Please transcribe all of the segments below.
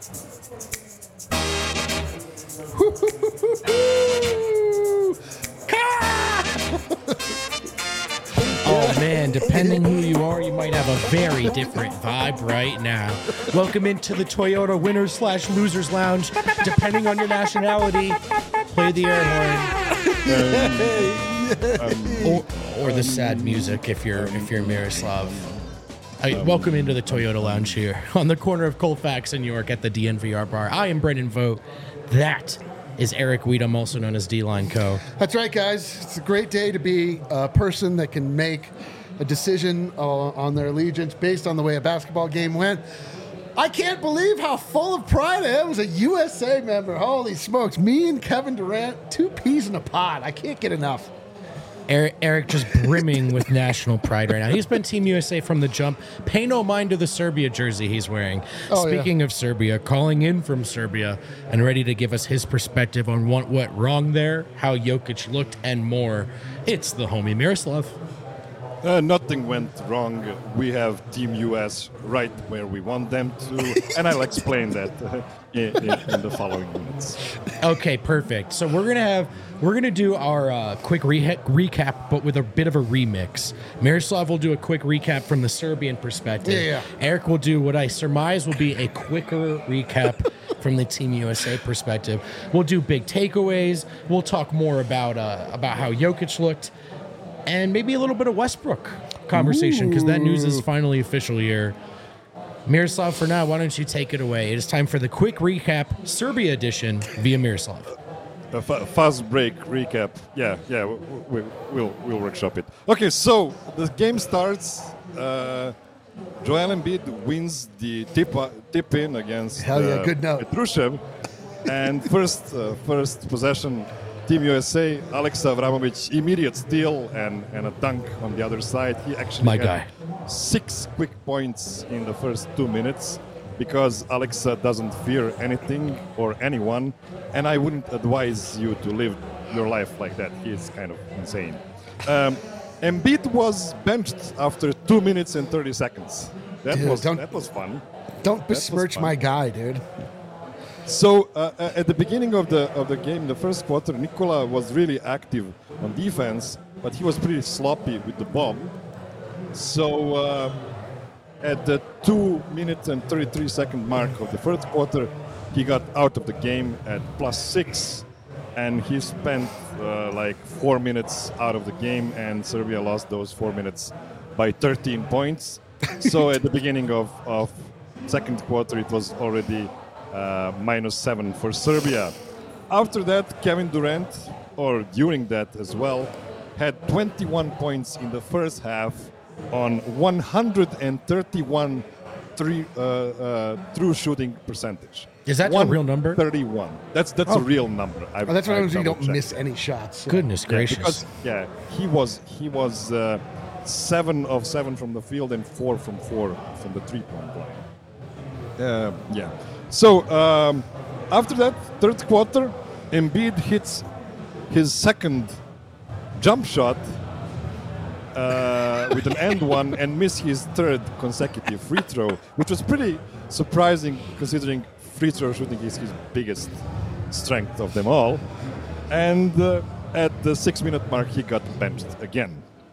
Oh man, depending who you are, you might have a very different vibe right now. Welcome into the Toyota Winners/Losers Lounge. Depending on your nationality, play the air horn. Or the sad music if you're Miroslav. Welcome into the Toyota Lounge here on the corner of Colfax and York at the DNVR bar. I am Brendan Vogt. That is Eric Weedham, also known as D-Line Co. That's right, guys. It's a great day to be a person that can make a decision on their allegiance based on the way a basketball game went. I can't believe how full of pride I am as a USA member. Holy smokes. Me and Kevin Durant, two peas in a pod. I can't get enough. Eric just brimming with national pride right now. He's been Team USA from the jump. Pay no mind to the Serbia jersey he's wearing. Speaking of Serbia, calling in from Serbia and ready to give us his perspective on what went wrong there, how Jokic looked, and more. It's the homie Miroslav. Nothing went wrong. We have Team US right where we want them to, and I'll explain that in the following minutes. Okay, perfect. So we're gonna do our quick recap, but with a bit of a remix. Miroslav will do a quick recap from the Serbian perspective. Yeah. Eric will do what I surmise will be a quicker recap from the Team USA perspective. We'll do big takeaways. We'll talk more about how Jokic looked. And maybe a little bit of Westbrook conversation, because that news is finally official here. Miroslav, for now, why don't you take it away? It is time for the quick recap, Serbia edition, via Miroslav. A fast break recap. Yeah, we'll workshop it. Okay, so the game starts. Joel Embiid wins the tip in against good note. Petrusev, and first possession. Team USA, Alex Avramovic, immediate steal and a dunk on the other side. He actually had 6 quick points in the first 2 minutes because Alexa doesn't fear anything or anyone, and I wouldn't advise you to live your life like that. He is kind of insane. Embiid was benched after 2 minutes and 30 seconds. That was fun. Don't besmirch my guy, dude. So at the beginning of the game, the first quarter, Nikola was really active on defense, but he was pretty sloppy with the ball. So at the 2 minute and 33 second mark of the first quarter, he got out of the game at +6, and he spent like 4 minutes out of the game, and Serbia lost those 4 minutes by 13 points. So at the beginning of second quarter, it was already -7 for Serbia. After that, Kevin Durant, or during that as well, had 21 points in the first half on 131 true shooting percentage. Is that a real number? 31. That's a real number. That's what happens when you don't miss any shots. So. Goodness gracious. He was 7 of 7 from the field and 4 from 4 from the 3-point line. So after that, third quarter, Embiid hits his second jump shot with an and one and missed his third consecutive free throw, which was pretty surprising considering free throw shooting is his biggest strength of them all. And at the 6 minute mark, he got benched again.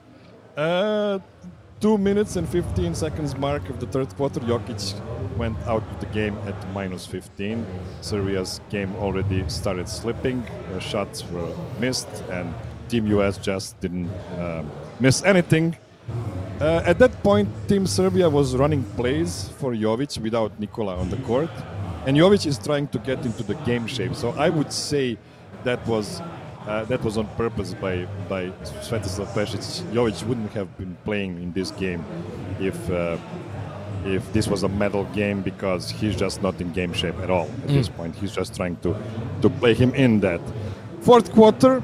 2 minutes and 15 seconds mark of the third quarter, Jokic went out of the game at -15. Serbia's game already started slipping. Shots were missed, and Team US just didn't miss anything. At that point, Team Serbia was running plays for Jovic without Nikola on the court, and Jovic is trying to get into the game shape. So I would say that was on purpose by Svetislav Pešić. Jovic wouldn't have been playing in this game if this was a medal game, because he's just not in game shape at all at this point. He's just trying to play him in that. Fourth quarter,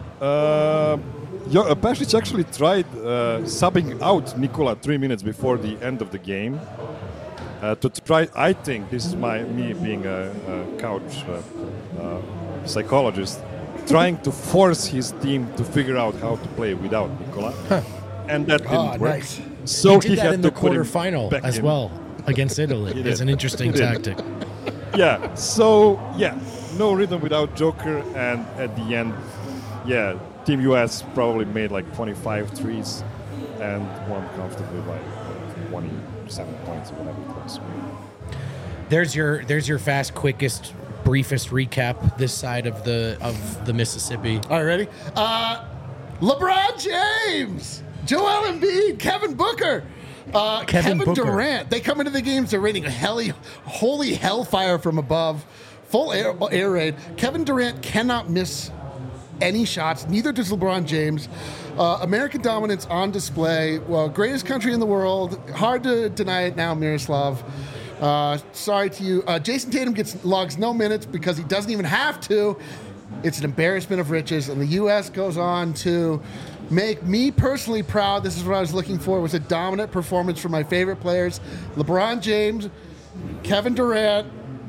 Pešić actually tried subbing out Nikola 3 minutes before the end of the game to try. I think this is me being a couch psychologist, trying to force his team to figure out how to play without Nikola, and that didn't work. Nice. So he did that in the quarterfinal as well against Italy. It's an interesting tactic. Yeah. So yeah, no rhythm without Joker, and at the end, yeah, Team US probably made like 25 threes and won comfortably by 27 points or whatever it was. There's your fast, quickest, briefest recap this side of the Mississippi. All right, ready? LeBron James, Joel Embiid, Kevin Booker, Kevin Booker. Durant. They come into the games, they're raining holy hellfire from above, full air raid. Kevin Durant cannot miss any shots. Neither does LeBron James. American dominance on display. Well, greatest country in the world. Hard to deny it now, Miroslav. Sorry to you. Jason Tatum logs no minutes because he doesn't even have to. It's an embarrassment of riches, and the U.S. goes on to make me personally proud. This is what I was looking for. It was a dominant performance from my favorite players, LeBron James, Kevin Durant,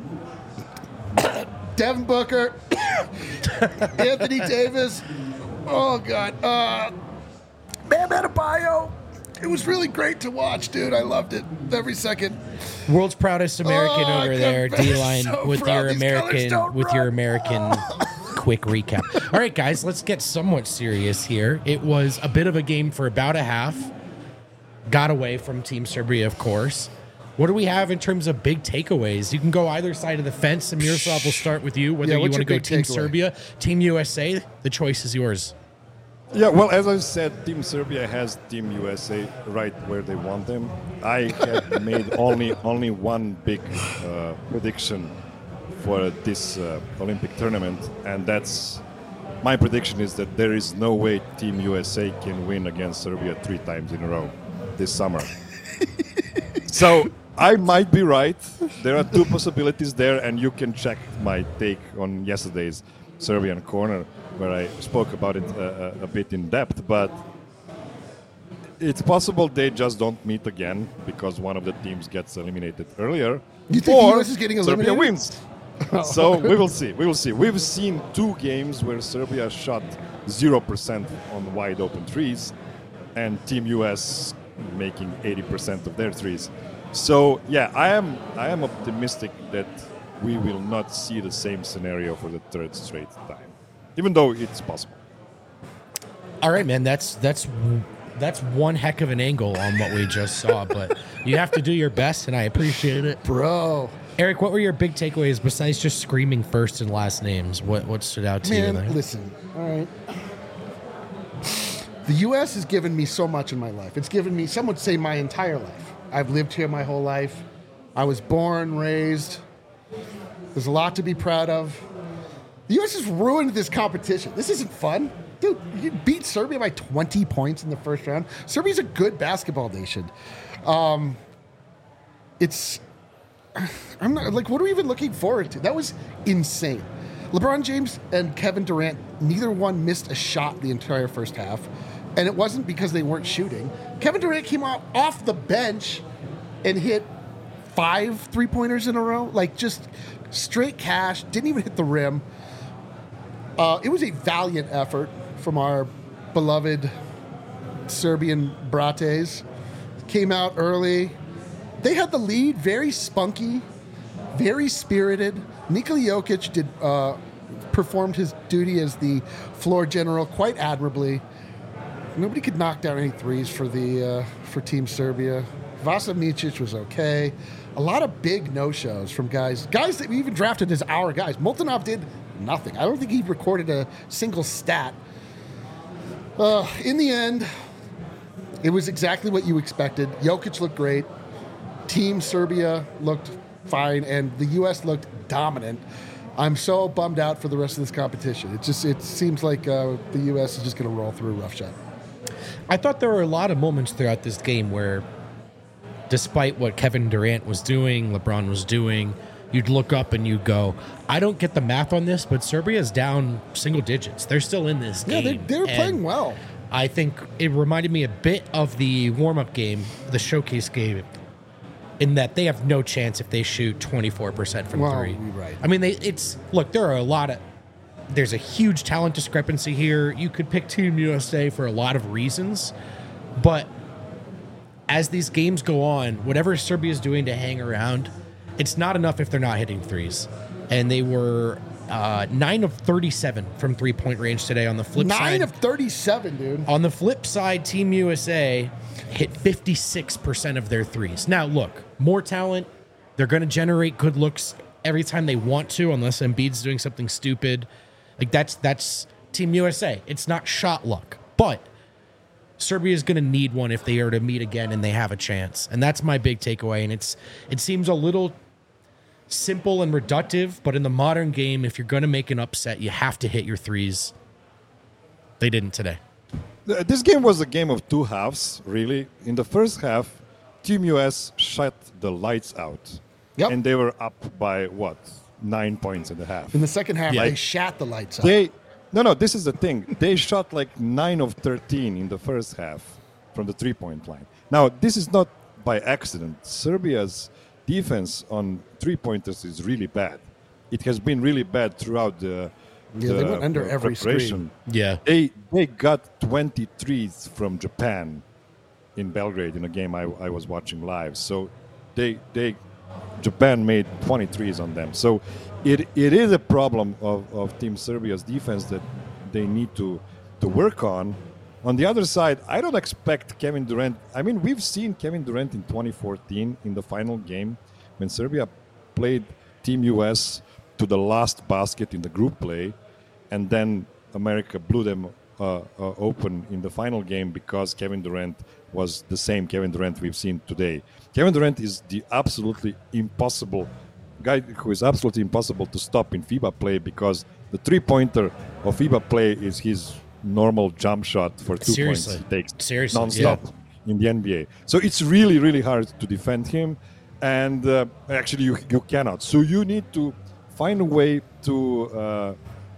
Devin Booker, Anthony Davis. Oh, God. Bam Adebayo. It was really great to watch, dude. I loved it every second. World's proudest American Oh, over there, I'm D-line, so with proud. your These colors American don't with your run. American quick recap. All right, guys, let's get somewhat serious here. It was a bit of a game for about a half. Got away from Team Serbia, of course. What do we have in terms of big takeaways? You can go either side of the fence, and Miroslav will start with you. Whether Yeah, you what's want to your go big Team takeaway? Serbia, Team USA, the choice is yours. Yeah, well, as I said, Team Serbia has Team USA right where they want them. I had made only one big prediction for this Olympic tournament, and that's my prediction is that there is no way Team USA can win against Serbia 3 times in a row this summer. So I might be right. There are 2 possibilities there, and you can check my take on yesterday's Serbian Corner, where I spoke about it a bit in depth, but it's possible they just don't meet again because one of the teams gets eliminated earlier. You think the US is getting Serbia eliminated? wins. So we will see. We will see. We've seen 2 games where Serbia shot 0% on wide open threes, and Team US making 80% of their threes. So yeah, I am optimistic that we will not see the same scenario for the 3rd straight time, even though it's possible. All right, man. That's one heck of an angle on what we just saw, but you have to do your best, and I appreciate it. Bro. Eric, what were your big takeaways besides just screaming first and last names? What stood out to you? Man, there? listen. All right. The U.S. has given me so much in my life. It's given me, some would say, my entire life. I've lived here my whole life. I was born, raised. There's a lot to be proud of. The U.S. has ruined this competition. This isn't fun. Dude, you beat Serbia by 20 points in the first round. Serbia's a good basketball nation. I'm not, like, what are we even looking forward to? That was insane. LeBron James and Kevin Durant, neither one missed a shot the entire first half. And it wasn't because they weren't shooting. Kevin Durant came out off the bench and hit 5 3-pointers in a row. Like, just straight cash, didn't even hit the rim. It was a valiant effort from our beloved Serbian brates. Came out early. They had the lead, very spunky, very spirited. Nikola Jokic performed his duty as the floor general quite admirably. Nobody could knock down any threes for Team Serbia. Vasa Micic was okay. A lot of big no-shows from guys that we even drafted as our guys. Moltenov did nothing. I don't think he recorded a single stat. In the end, it was exactly what you expected. Jokic looked great. Team Serbia looked fine, and the U.S. looked dominant. I'm so bummed out for the rest of this competition. It seems like the U.S. is just going to roll through roughshod. I thought there were a lot of moments throughout this game where, despite what Kevin Durant was doing, LeBron was doing, you'd look up and you'd go, I don't get the math on this, but Serbia's down single digits. They're still in this game. Yeah, they're playing well. I think it reminded me a bit of the warm-up game, the showcase game, in that they have no chance if they shoot 24% from three. Right. I mean, there's a huge talent discrepancy here. You could pick Team USA for a lot of reasons, but as these games go on, whatever Serbia's doing to hang around, it's not enough if they're not hitting threes. And they were 9 of 37 from three-point range today. On the flip side, 9 of 37, dude. On the flip side, Team USA hit 56% of their threes. Now, look, more talent. They're going to generate good looks every time they want to, unless Embiid's doing something stupid. Like, that's Team USA. It's not shot luck. But Serbia is going to need one if they are to meet again and they have a chance. And that's my big takeaway. And it seems a little simple and reductive, but in the modern game, if you're going to make an upset, you have to hit your threes. They didn't today. This game was a game of two halves, really. In the first half, Team US shut the lights out. Yep. And they were up by, 9 points in the half. In the second half, Yeah. they shat the lights out. No, this is the thing. They shot like 9 of 13 in the first half from the three-point line. Now, this is not by accident. Serbia's defense on three-pointers is really bad. It has been really bad throughout the they went under every preparation. Yeah. They got 23s from Japan in Belgrade in a game I was watching live. So Japan made 23s on them. So it is a problem of Team Serbia's defense that they need to work on. On the other side, I don't expect Kevin Durant. I mean, we've seen Kevin Durant in 2014 in the final game when Serbia played Team US to the last basket in the group play, and then America blew them open in the final game because Kevin Durant was the same Kevin Durant we've seen today. Kevin Durant is the absolutely impossible guy who is absolutely impossible to stop in FIBA play because the three-pointer of FIBA play is his normal jump shot for 2 Seriously. points. He takes Seriously, non-stop in the NBA. So it's really, really hard to defend him. And actually, you cannot. So you need to find a way to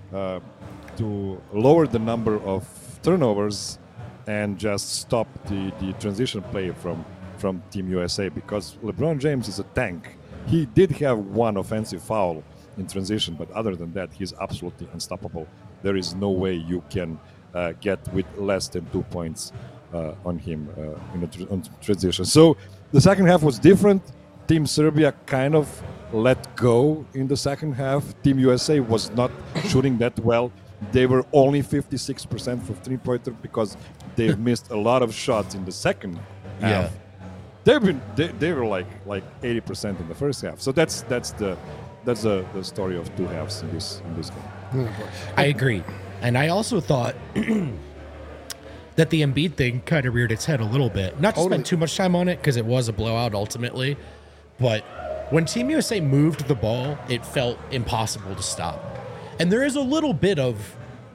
lower the number of turnovers and just stop the transition play from Team USA because LeBron James is a tank. He did have one offensive foul in transition, but other than that, he's absolutely unstoppable. There is no way you can get with less than 2 points on him on transition. So the second half was different. Team Serbia kind of let go in the second half. Team USA was not shooting that well. They were only 56% for three-pointer because they missed a lot of shots in the second half. They were like 80% in the first half. So that's the story of two halves in this game. I agree. And I also thought that the Embiid thing kind of reared its head a little bit. Not to spend too much time on it because it was a blowout ultimately. But when Team USA moved the ball, it felt impossible to stop. And there is a little bit of,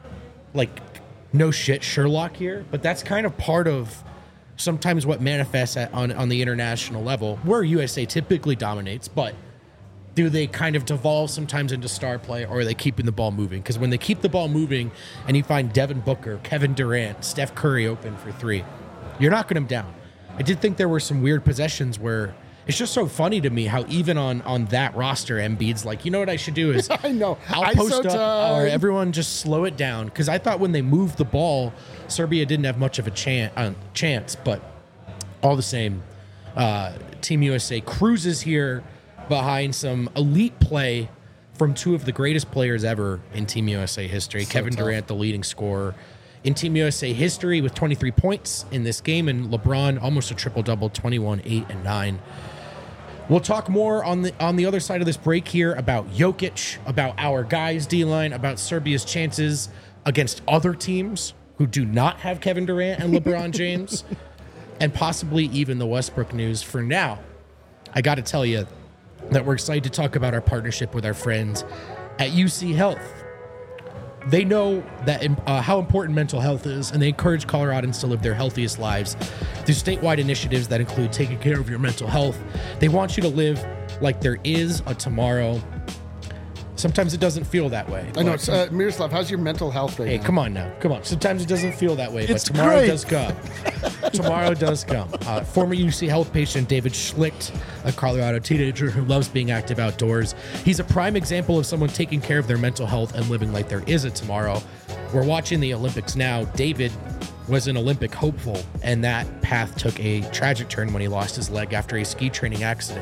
no shit Sherlock here, but that's kind of part of sometimes what manifests on the international level, where USA typically dominates, but do they kind of devolve sometimes into star play, or are they keeping the ball moving? Because when they keep the ball moving and you find Devin Booker, Kevin Durant, Steph Curry open for three, you're knocking them down. I did think there were some weird possessions where it's just so funny to me how even on that roster, Embiid's like, you know what I should do is I know. I'll post up or everyone just slow it down. Because I thought when they moved the ball, Serbia didn't have much of a chance. But all the same, Team USA cruises here behind some elite play from two of the greatest players ever in Team USA history. Kevin Durant, the leading scorer in Team USA history with 23 points in this game, and LeBron almost a triple-double, 21, 8, and 9. We'll talk more on the other side of this break here about Jokic, about our guys' D-line, about Serbia's chances against other teams who do not have Kevin Durant and LeBron James, and possibly even the Westbrook news. For now, I got to tell you that we're excited to talk about our partnership with our friends at UC Health. They know that how important mental health is, and they encourage Coloradans to live their healthiest lives through statewide initiatives that include taking care of your mental health. They want you to live like there is a tomorrow. Sometimes it doesn't feel that way. I know. Miroslav, how's your mental health right now? Hey, come on now. Come on. Sometimes it doesn't feel that way, It's but tomorrow great. does come. Tomorrow does come. Former UC Health patient David Schlicht, a Colorado teenager who loves being active outdoors. He's a prime example of someone taking care of their mental health and living like there is a tomorrow. We're watching the Olympics now. David was an Olympic hopeful, and that path took a tragic turn when he lost his leg after a ski training accident.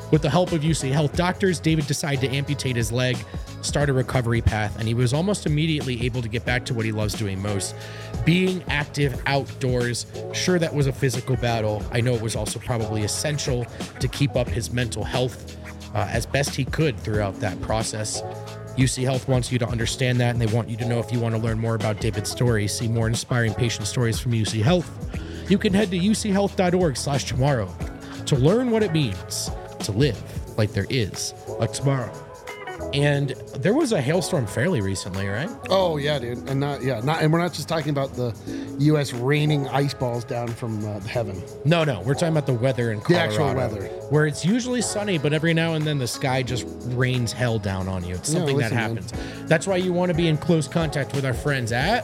With the help of UC Health doctors, David decided to amputate his leg, start a recovery path, and he was almost immediately able to get back to what he loves doing most, being active outdoors. Sure, that was a physical battle. I know it was also probably essential to keep up his mental health as best he could throughout that process. UC Health wants you to understand that, and they want you to know if you want to learn more about David's story, see more inspiring patient stories from UC Health, you can head to uchealth.org/tomorrow to learn what it means to live like there is a tomorrow. And there was a hailstorm fairly recently, right? Oh yeah, dude, and and we're not just talking about the U.S. raining ice balls down from heaven. No, we're talking about the weather in Colorado. The actual weather, where it's usually sunny, but every now and then the sky just rains hell down on you. It's something that happens. Man. That's why you want to be in close contact with our friends at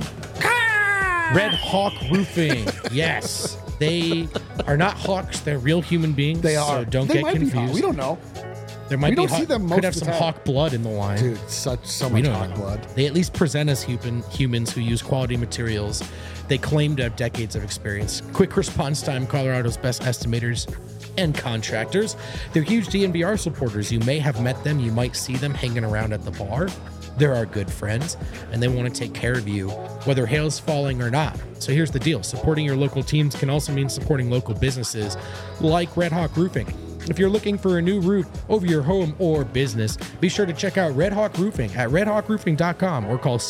Red Hawk Roofing. Yes. They are not hawks. They're real human beings. They are. So don't get confused. We don't know. There might we be don't see them most could have of the some time. hawk blood in the line. Dude, so much hawk blood. They at least present as humans who use quality materials. They claim to have decades of experience. Quick response time, Colorado's best estimators and contractors. They're huge DNVR supporters. You may have met them. You might see them hanging around at the bar. They're our good friends, and they want to take care of you, whether hail's falling or not. So here's the deal. Supporting your local teams can also mean supporting local businesses like Red Hawk Roofing. If you're looking for a new roof over your home or business, be sure to check out Red Hawk Roofing at redhawkroofing.com or call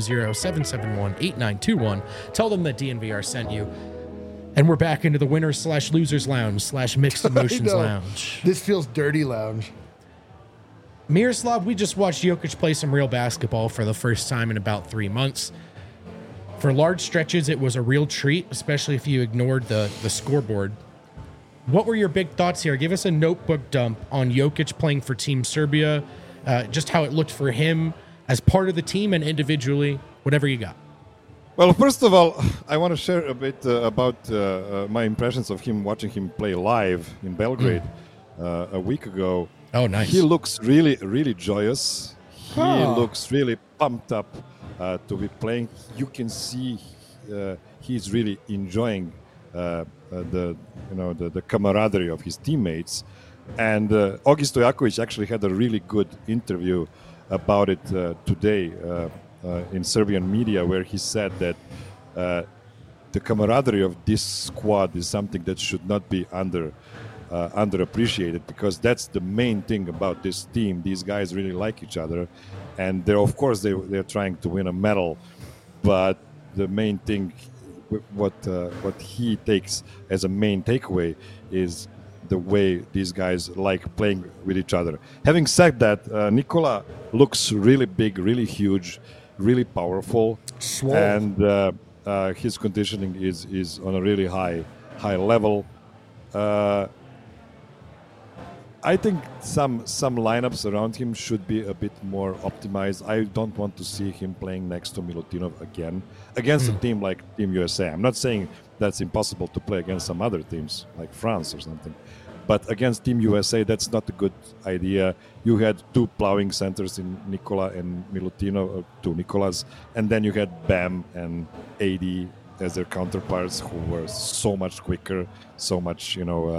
720-771-8921. Tell them that DNVR sent you. And we're back into the winners/losers lounge/mixed emotions lounge. This feels dirty lounge. Miroslav, we just watched Jokic play some real basketball for the first time in about 3 months. For large stretches, it was a real treat, especially if you ignored the scoreboard. What were your big thoughts here? Give us a notebook dump on Jokic playing for Team Serbia, just how it looked for him as part of the team and individually, whatever you got. Well, first of all, I want to share a bit about my impressions of him watching him play live in Belgrade a week ago. Oh, nice. He looks really, really joyous. He looks really pumped up to be playing. You can see he's really enjoying the camaraderie of his teammates. And Ogi Stojakovic actually had a really good interview about it today in Serbian media, where he said that the camaraderie of this squad is something that should not be underappreciated, because that's the main thing about this team. These guys really like each other, and they're trying to win a medal, but the main thing, what he takes as a main takeaway, is the way these guys like playing with each other. Having said that, Nikola looks really big, really huge, really powerful, and his conditioning is on a really high level. I think some lineups around him should be a bit more optimized. I don't want to see him playing next to Milutinov again against a team like Team USA. I'm not saying that's impossible to play against some other teams like France or something, but against Team USA, that's not a good idea. You had two plowing centers in Nikola and Milutinov, two Nikolas, and then you had Bam and AD as their counterparts, who were so much quicker, so much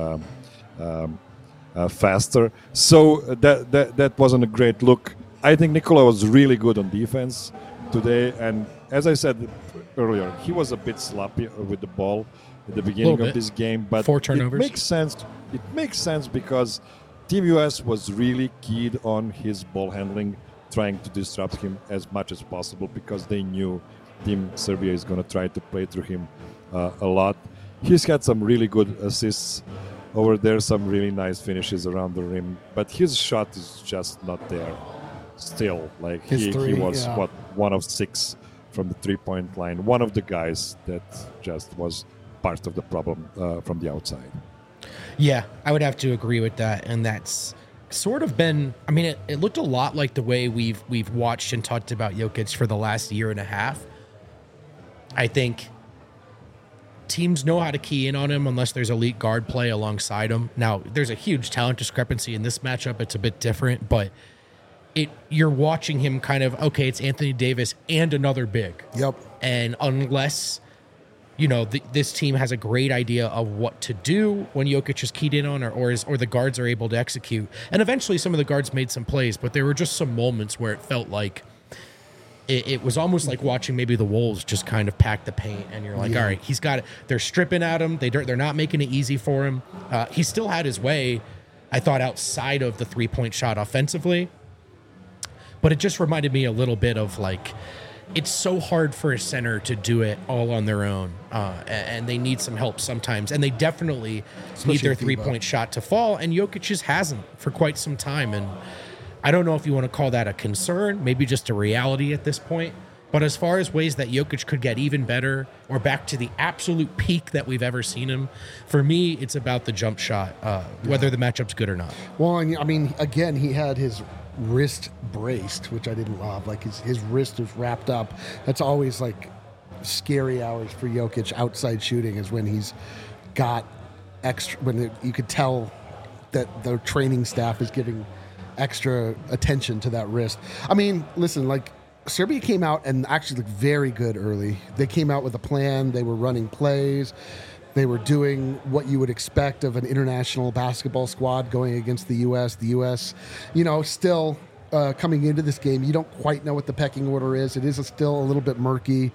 faster. So that wasn't a great look. I think Nikola was really good on defense today, and as I said earlier, he was a bit sloppy with the ball at the beginning of this game, but 4 turnovers. It makes sense because Team US was really keyed on his ball handling, trying to disrupt him as much as possible, because they knew Team Serbia is going to try to play through him a lot. He's had some really good assists over there, some really nice finishes around the rim, but his shot is just not there still. Like he was one of 6 from the 3-point line, one of the guys that just was part of the problem from the outside. Yeah, I would have to agree with that, and that's sort of been, I mean, it looked a lot like the way we've watched and talked about Jokic for the last year and a half. I think teams know how to key in on him unless there's elite guard play alongside him. Now, there's a huge talent discrepancy in this matchup. It's a bit different, but you're watching him kind of, okay, it's Anthony Davis and another big. Yep. And unless this team has a great idea of what to do when Jokic is keyed in on, or the guards are able to execute. And eventually, some of the guards made some plays, but there were just some moments where it felt like it was almost like watching maybe the Wolves just kind of pack the paint, and you're like, all right, he's got it. They're stripping at him. They're not making it easy for him. He still had his way, I thought, outside of the 3-point shot offensively, but it just reminded me a little bit of like, it's so hard for a center to do it all on their own, and they need some help sometimes. And they definitely need their 3-point shot to fall, and Jokic just hasn't for quite some time. And I don't know if you want to call that a concern, maybe just a reality at this point. But as far as ways that Jokic could get even better or back to the absolute peak that we've ever seen him, for me, it's about the jump shot, whether the matchup's good or not. Well, I mean, again, he had his wrist braced, which I didn't love. Like his wrist was wrapped up. That's always like scary hours for Jokic outside shooting, is when he's got extra, you could tell that the training staff is giving extra attention to that wrist. I mean, listen, like Serbia came out and actually looked very good early. They came out with a plan. They were running plays. They were doing what you would expect of an international basketball squad going against the U.S. The U.S., still coming into this game, you don't quite know what the pecking order is. It is still a little bit murky.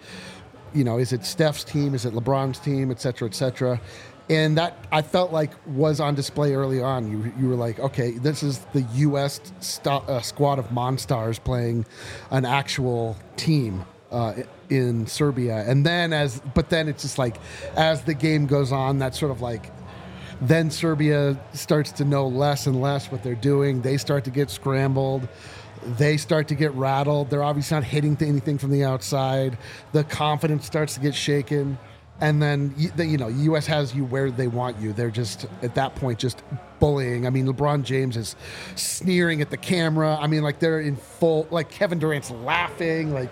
Is it Steph's team? Is it LeBron's team? Et cetera, et cetera. And that, I felt like, was on display early on. You were like, okay, this is the U.S. Squad of Monstars playing an actual team in Serbia. And then it's just like, as the game goes on, that's sort of like, then Serbia starts to know less and less what they're doing. They start to get scrambled. They start to get rattled. They're obviously not hitting anything from the outside. The confidence starts to get shaken. And then, U.S. has you where they want you. They're just, at that point, just bullying. I mean, LeBron James is sneering at the camera. I mean, like, they're in full, like, Kevin Durant's laughing. Like,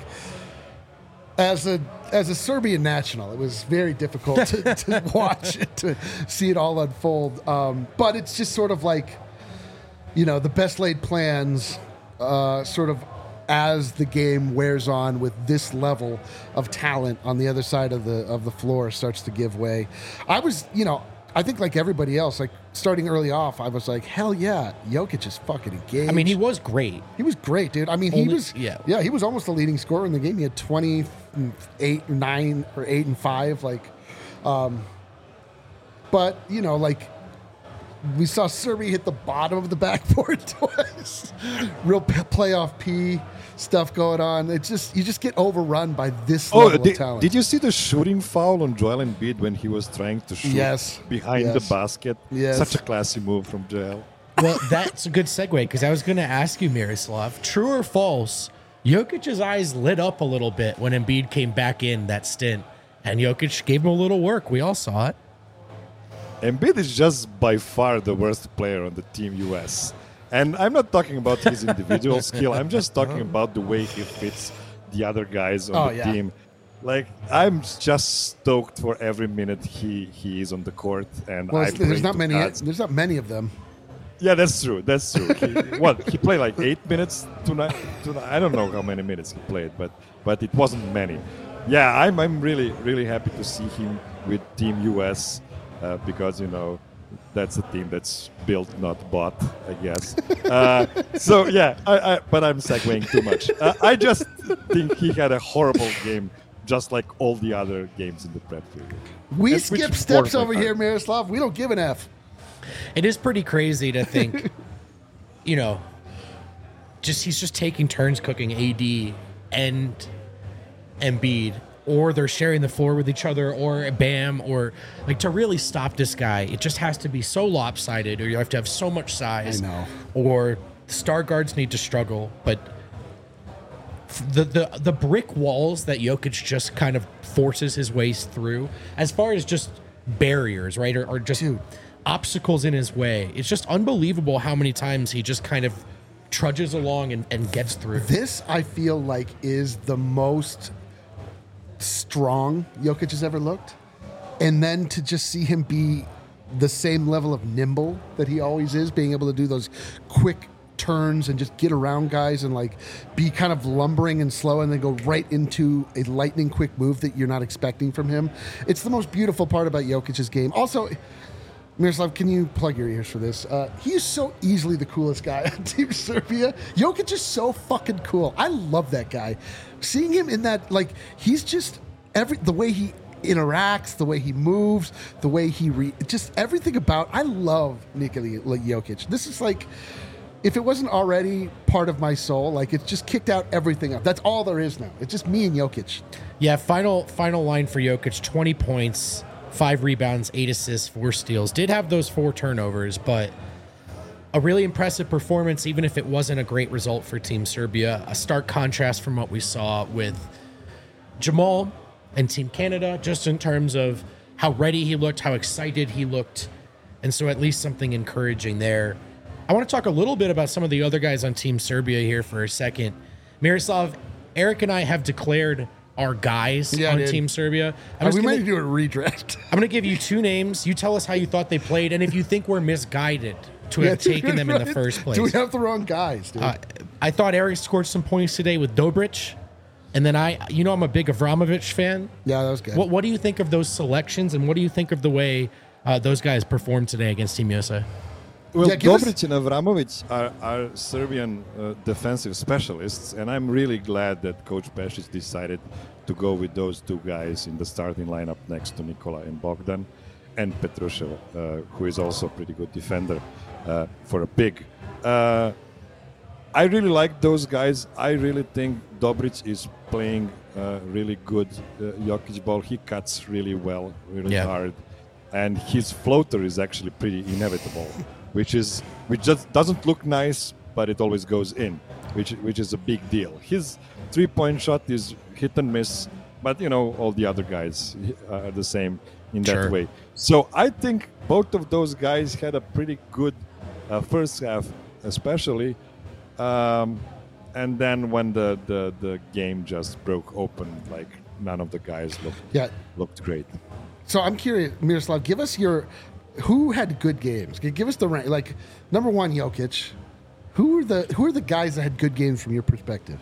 as a Serbian national, it was very difficult to watch it, to see it all unfold. But it's just sort of like, the best laid plans sort of, as the game wears on with this level of talent on the other side of the floor, starts to give way. I was, I think like everybody else, like starting early off, I was like, hell yeah, Jokic is fucking engaged. I mean, he was great. He was great, dude. I mean, he was almost the leading scorer in the game. He had 28, 9, or 8 and 5. Like, but like, we saw Serbia hit the bottom of the backboard twice. Real playoff P stuff going on. It's just, you just get overrun by this level of talent. Did you see the shooting foul on Joel Embiid when he was trying to shoot behind the basket? Yes. Such a classy move from Joel. Well, that's a good segue, because I was going to ask you, Miroslav, true or false, Jokic's eyes lit up a little bit when Embiid came back in that stint, and Jokic gave him a little work. We all saw it. Embiid is just by far the worst player on the Team US. And I'm not talking about his individual skill. I'm just talking about the way he fits the other guys on the team. Like, I'm just stoked for every minute he is on the court. And there's not many of them. Yeah, that's true. He played like 8 minutes tonight? I don't know how many minutes he played, but it wasn't many. Yeah, I'm really, really happy to see him with Team US. Because, that's a team that's built, not bought, I guess. But I'm segueing too much. I just think he had a horrible game, just like all the other games in the prep period. We skip steps over here, Miroslav. We don't give an F. It is pretty crazy to think, he's just taking turns cooking AD and Embiid, or they're sharing the floor with each other, or Bam, or like, to really stop this guy, it just has to be so lopsided, or you have to have so much size. I know. Or the star guards need to struggle. But the brick walls that Jokic just kind of forces his ways through, as far as just barriers, right, or just obstacles in his way, it's just unbelievable how many times he just kind of trudges along and gets through. This, I feel like, is the most strong Jokic has ever looked, and then to just see him be the same level of nimble that he always is, being able to do those quick turns and just get around guys and like be kind of lumbering and slow and then go right into a lightning quick move that you're not expecting from him. It's the most beautiful part about Jokic's game. Also, Miroslav, can you plug your ears for this? He is so easily the coolest guy on Team Serbia. Jokic is so fucking cool. I love that guy. Seeing him in that, like, he's just the way he interacts, the way he moves, the way he just everything about. I love Nikola Jokic. This is like, if it wasn't already part of my soul, like it's just kicked out everything up. That's all there is now. It's just me and Jokic. Yeah. Final line for Jokic: 20 points. 5 rebounds, 8 assists, 4 steals. Did have those 4 turnovers, but a really impressive performance, even if it wasn't a great result for Team Serbia. A stark contrast from what we saw with Jamal and Team Canada, just in terms of how ready he looked, how excited he looked. And so at least something encouraging there. I want to talk a little bit about some of the other guys on Team Serbia here for a second. Miroslav, Eric and I have declared our guys on Team Serbia. We might do a redraft. I'm going to give you 2 names. You tell us how you thought they played, and if you think we're misguided to have taken them in the first place. Do we have the wrong guys, dude? I thought Eric scored some points today with Dobric, and then I'm a big Avramovic fan. Yeah, that was good. What do you think of those selections, and what do you think of the way those guys performed today against Team USA? Well, Dobric and Avramovic are Serbian defensive specialists, and I'm really glad that Coach Pešić decided to go with those 2 guys in the starting lineup next to Nikola and Bogdan, and Petrushev, who is also a pretty good defender for a big. I really like those guys. I really think Dobric is playing really good Jokic ball. He cuts really well, really hard, and his floater is actually pretty inevitable. Which just doesn't look nice, but it always goes in, which is a big deal. His 3-point shot is hit and miss, but all the other guys are the same in that way. So I think both of those guys had a pretty good first half, especially, and then when the game just broke open, like none of the guys looked great. So I'm curious, Miroslav, give us who had good games? Give us the rank. Like, number 1, Jokic. Who are the guys that had good games from your perspective?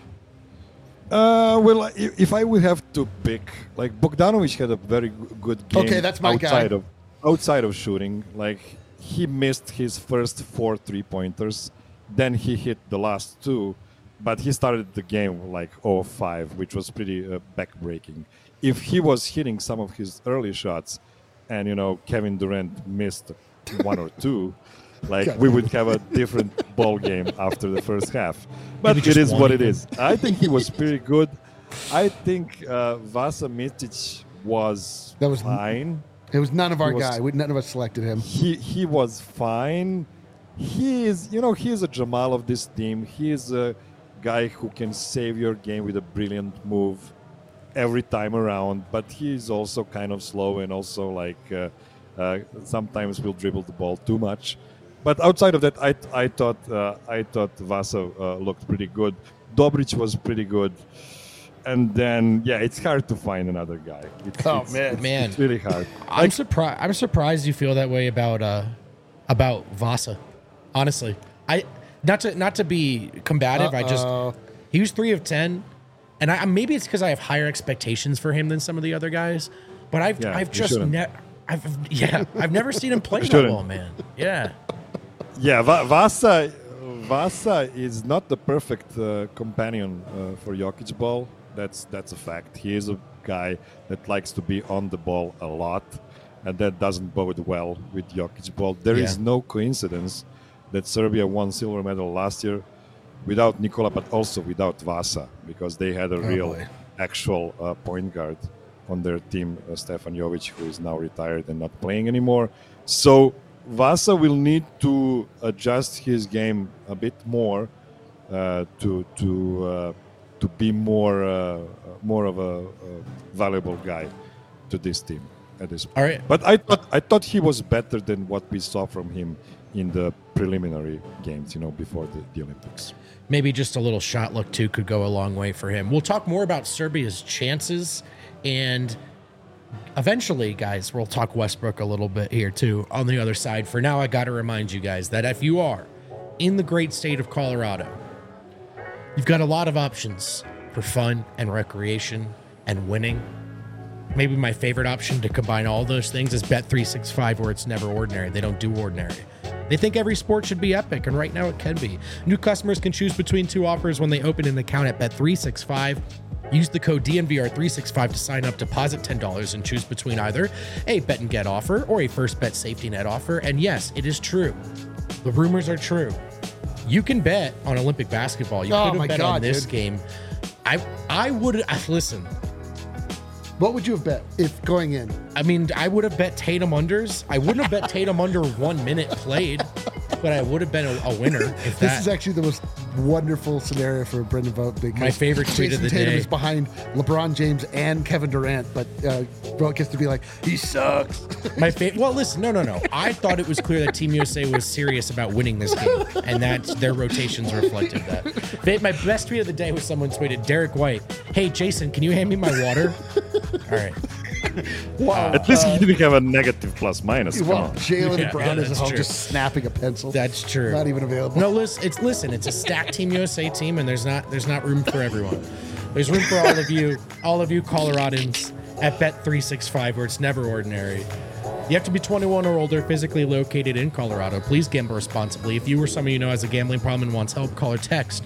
Well, if I would have to pick, like Bogdanovic had a very good game. Okay, that's my guy. Outside of shooting, like he missed his first 4 3-pointers, then he hit the last 2, but he started the game like 0-5, which was pretty back-breaking. If he was hitting some of his early shots, and Kevin Durant missed 1 or 2, like we would have a different ball game after the first half. But it is what it is. I think he was pretty good. I think Vasa Micic was fine. It was none of our guy. None of us selected him. He was fine. He is a Jamal of this team. He is a guy who can save your game with a brilliant move every time around, but he's also kind of slow and also like sometimes will dribble the ball too much. But outside of that, I thought Vasa looked pretty good. Dobric was pretty good, and then it's hard to find another guy. It's really hard. I'm surprised you feel that way about Vasa. Honestly, not to be combative. He was 3 of 10. And maybe it's because I have higher expectations for him than some of the other guys, but I've never seen him play that well, man. Yeah. Yeah, Vasa is not the perfect companion for Jokic ball. That's a fact. He is a guy that likes to be on the ball a lot, and that doesn't bode well with Jokic ball. There is no coincidence that Serbia won silver medal last year without Nikola, but also without Vasa, because they had a actual point guard on their team, Stefan Jovic, who is now retired and not playing anymore. So Vasa will need to adjust his game a bit more to be more of a valuable guy to this team at this point. All right. But I thought he was better than what we saw from him in the preliminary games, before the Olympics. Maybe just a little shot luck too could go a long way for him. We'll talk more about Serbia's chances, and eventually, guys, we'll talk Westbrook a little bit here too on the other side. For now, I got to remind you guys that if you are in the great state of Colorado, you've got a lot of options for fun and recreation and winning. Maybe my favorite option to combine all those things is Bet365, where it's never ordinary. They don't do ordinary. They think every sport should be epic, and right now it can be. New customers can choose between 2 offers when they open an account at Bet365. Use the code DNVR365 to sign up, deposit $10, and choose between either a bet and get offer or a first bet safety net offer. And yes, it is true. The rumors are true. You can bet on Olympic basketball. You could have bet on this game. I would listen. What would you have bet if going in? I mean, I would have bet Tatum unders. I wouldn't have bet Tatum under 1 minute played, but I would have been a winner if that. This is actually the most wonderful scenario for Brendan Vogt, because my favorite tweet Jason of the Tatum day is behind LeBron James and Kevin Durant, but Vogt gets to be like, he sucks. Well, listen, no. I thought it was clear that Team USA was serious about winning this game, and that their rotations reflected that. My best tweet of the day was someone tweeted, Derek White, hey, Jason, can you hand me my water? All right. Wow. At least he didn't have a negative plus minus. Come Well, on. Jalen Brown is that's at home true. just snapping a pencil. That's true. Not even available. No, listen, it's a stacked Team USA team, and there's not room for everyone. There's room for all of you Coloradans at Bet365, where it's never ordinary. You have to be 21 or older, physically located in Colorado. Please gamble responsibly. If you or someone you know has a gambling problem and wants help, call or text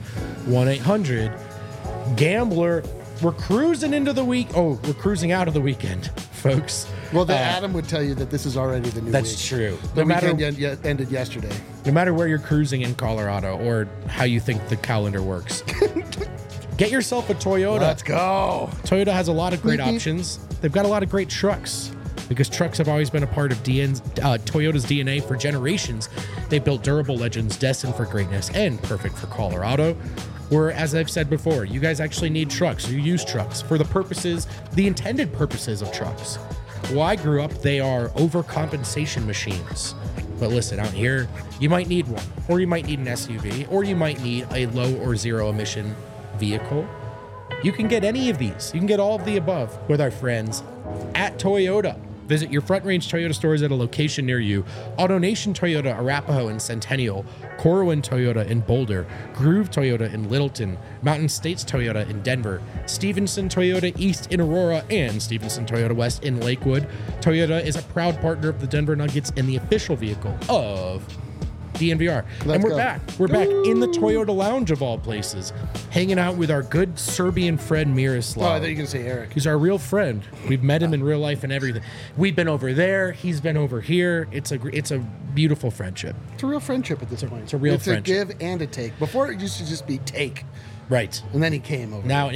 1-800-GAMBLER. We're cruising into the week. Oh, we're cruising out of the weekend, folks. Well, Adam would tell you that this is already the new That's week. true. The weekend ended yesterday. No matter where you're cruising in Colorado or how you think the calendar works, get yourself a Toyota. Let's go. Toyota has a lot of great Beep, beep. options. They've got a lot of great trucks, because trucks have always been a part of Toyota's DNA for generations. They built durable legends destined for greatness and perfect for Colorado, where, as I've said before, you guys actually need trucks. You use trucks for the intended purposes of trucks. Well, I grew up, they are overcompensation machines. But listen, out here, you might need one, or you might need an SUV, or you might need a low or zero emission vehicle. You can get any of these. You can get all of the above with our friends at Toyota. Visit your Front Range Toyota stores at a location near you. AutoNation Toyota, Arapahoe and Centennial, Corwin Toyota in Boulder, Groove Toyota in Littleton, Mountain States Toyota in Denver, Stevenson Toyota East in Aurora, and Stevenson Toyota West in Lakewood. Toyota is a proud partner of the Denver Nuggets and the official vehicle of DNVR. And we're back. We're back in the Toyota Lounge of all places, hanging out with our good Serbian friend Miroslav. Oh, I thought you were going to say Eric. He's our real friend. We've met him in real life and everything. We've been over there. He's been over here. It's a beautiful friendship. It's a real friendship at this point. It's a real friendship. It's a give and a take. Before, it used to just be take. Right. And then he came over. Now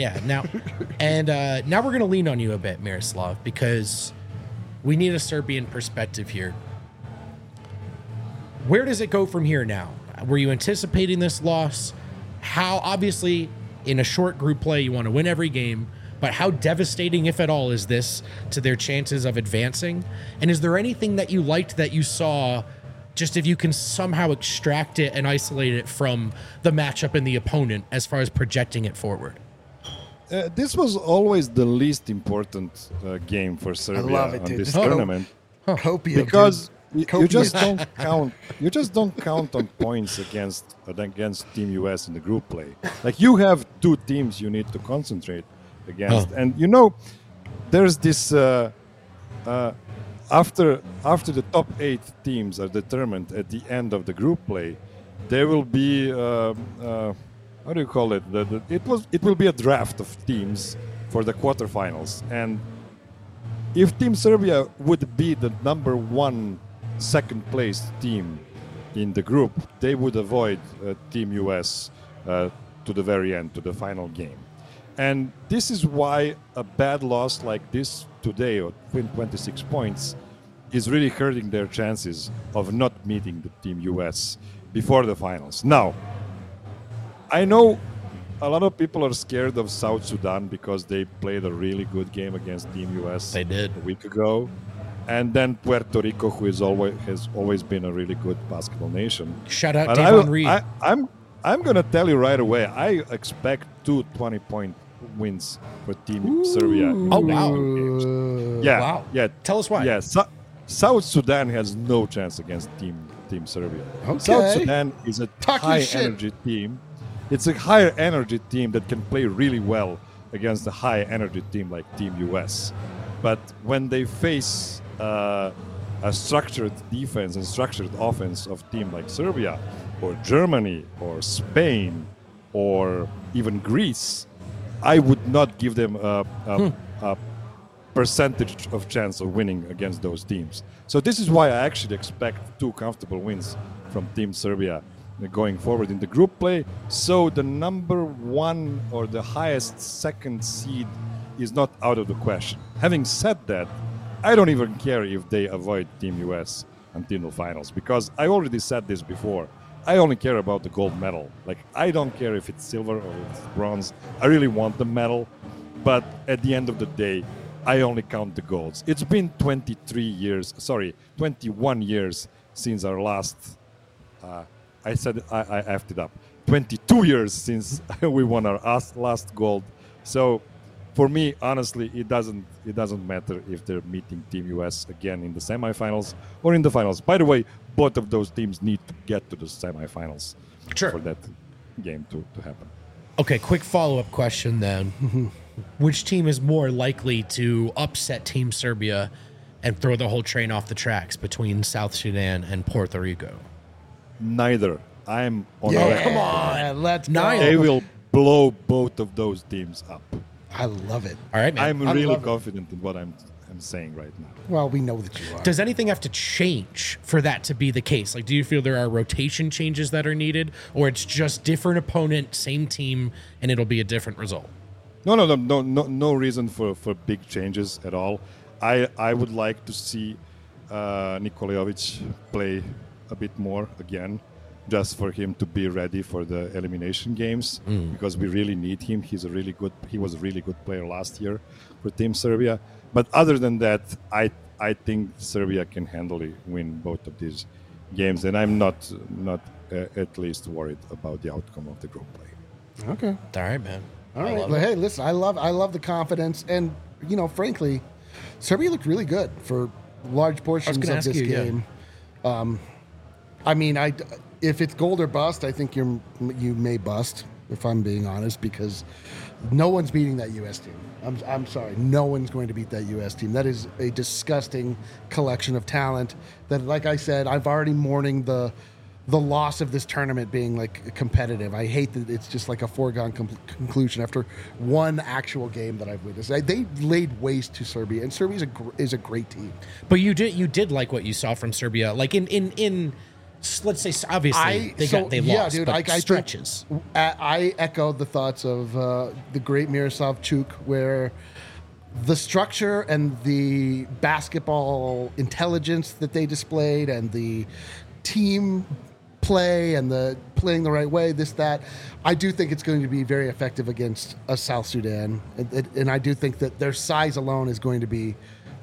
we're going to lean on you a bit, Miroslav, because we need a Serbian perspective here. Where does it go from here now? Were you anticipating this loss? How, obviously, in a short group play, you want to win every game, but how devastating, if at all, is this to their chances of advancing? And is there anything that you liked that you saw, just if you can somehow extract it and isolate it from the matchup and the opponent as far as projecting it forward? This was always the least important game for Serbia love it, on dude. this Just tournament. Copium, Because dude. you just don't count. You just don't count on points against Team US in the group play. Like, you have two teams you need to concentrate against, and there's this after the top 8 teams are determined at the end of the group play, there will be how do you call it? It will be a draft of teams for the quarterfinals, and if Team Serbia would be the number 1 second place team in the group, they would avoid Team US to the very end, to the final game. And this is why a bad loss like this today, or 26 points, is really hurting their chances of not meeting the Team US before the finals. Now, I know a lot of people are scared of South Sudan because they played a really good game against Team US. They did. A week ago. And then Puerto Rico, who has always been a really good basketball nation. Shout out And Davon Reed. I'm going to tell you right away, I expect 2 20-point wins for Team Serbia. Oh, wow. Yeah. Wow. Yeah. Tell us why. Yeah. South Sudan has no chance against Team Team Serbia. Okay. South Sudan is a Talk your high shit. energy team. It's a higher energy team that can play really well against a high energy team like Team US. But when they face a structured defense and structured offense of team like Serbia or Germany or Spain or even Greece, I would not give them a percentage of chance of winning against those teams. So this is why I actually expect 2 comfortable wins from Team Serbia going forward in the group play. So the number 1 or the highest second seed is not out of the question. Having said that, I don't even care if they avoid Team US until the finals, because I already said this before. I only care about the gold medal. Like, I don't care if it's silver or it's bronze. I really want the medal, but at the end of the day, I only count the golds. It's been 21 years since our last, I effed it up, 22 years since we won our last gold. So for me, honestly, it doesn't matter if they're meeting Team US again in the semifinals or in the finals. By the way, both of those teams need to get to the semifinals for that game to happen. Okay, quick follow-up question then. Which team is more likely to upset Team Serbia and throw the whole train off the tracks between South Sudan and Puerto Rico? Neither. I'm on Yeah, record. come on. Let's go. Neither. They will blow both of those teams up. I love it. All right, man. I'm I really love it. confident in what I'm saying right now. Well, we know that you are. Does anything have to change for that to be the case? Like, do you feel there are rotation changes that are needed, or it's just different opponent, same team, and it'll be a different result? No reason for big changes at all. I would like to see Nikola Jovic play a bit more again, just for him to be ready for the elimination games, because we really need him. He was a really good player last year for Team Serbia. But other than that, I think Serbia can handily win both of these games, and I'm not at least worried about the outcome of the group play. Okay. All right, man. All right. Well, hey, listen, I love the confidence, and frankly, Serbia looked really good for large portions of this game. I mean, if it's gold or bust, I think you may bust, if I'm being honest, because no one's beating that U.S. team. I'm sorry, no one's going to beat that U.S. team. That is a disgusting collection of talent. That, like I said, I've already mourning the loss of this tournament being like competitive. I hate that it's just like a foregone conclusion after one actual game that I've witnessed. They laid waste to Serbia, and Serbia is a great team. But you did like what you saw from Serbia, like in let's say, obviously they lost, dude, but stretches. I echo the thoughts of the great Miroslav Chuk, where the structure and the basketball intelligence that they displayed and the team play and the playing the right way, that, I do think it's going to be very effective against a South Sudan. And I do think that their size alone is going to be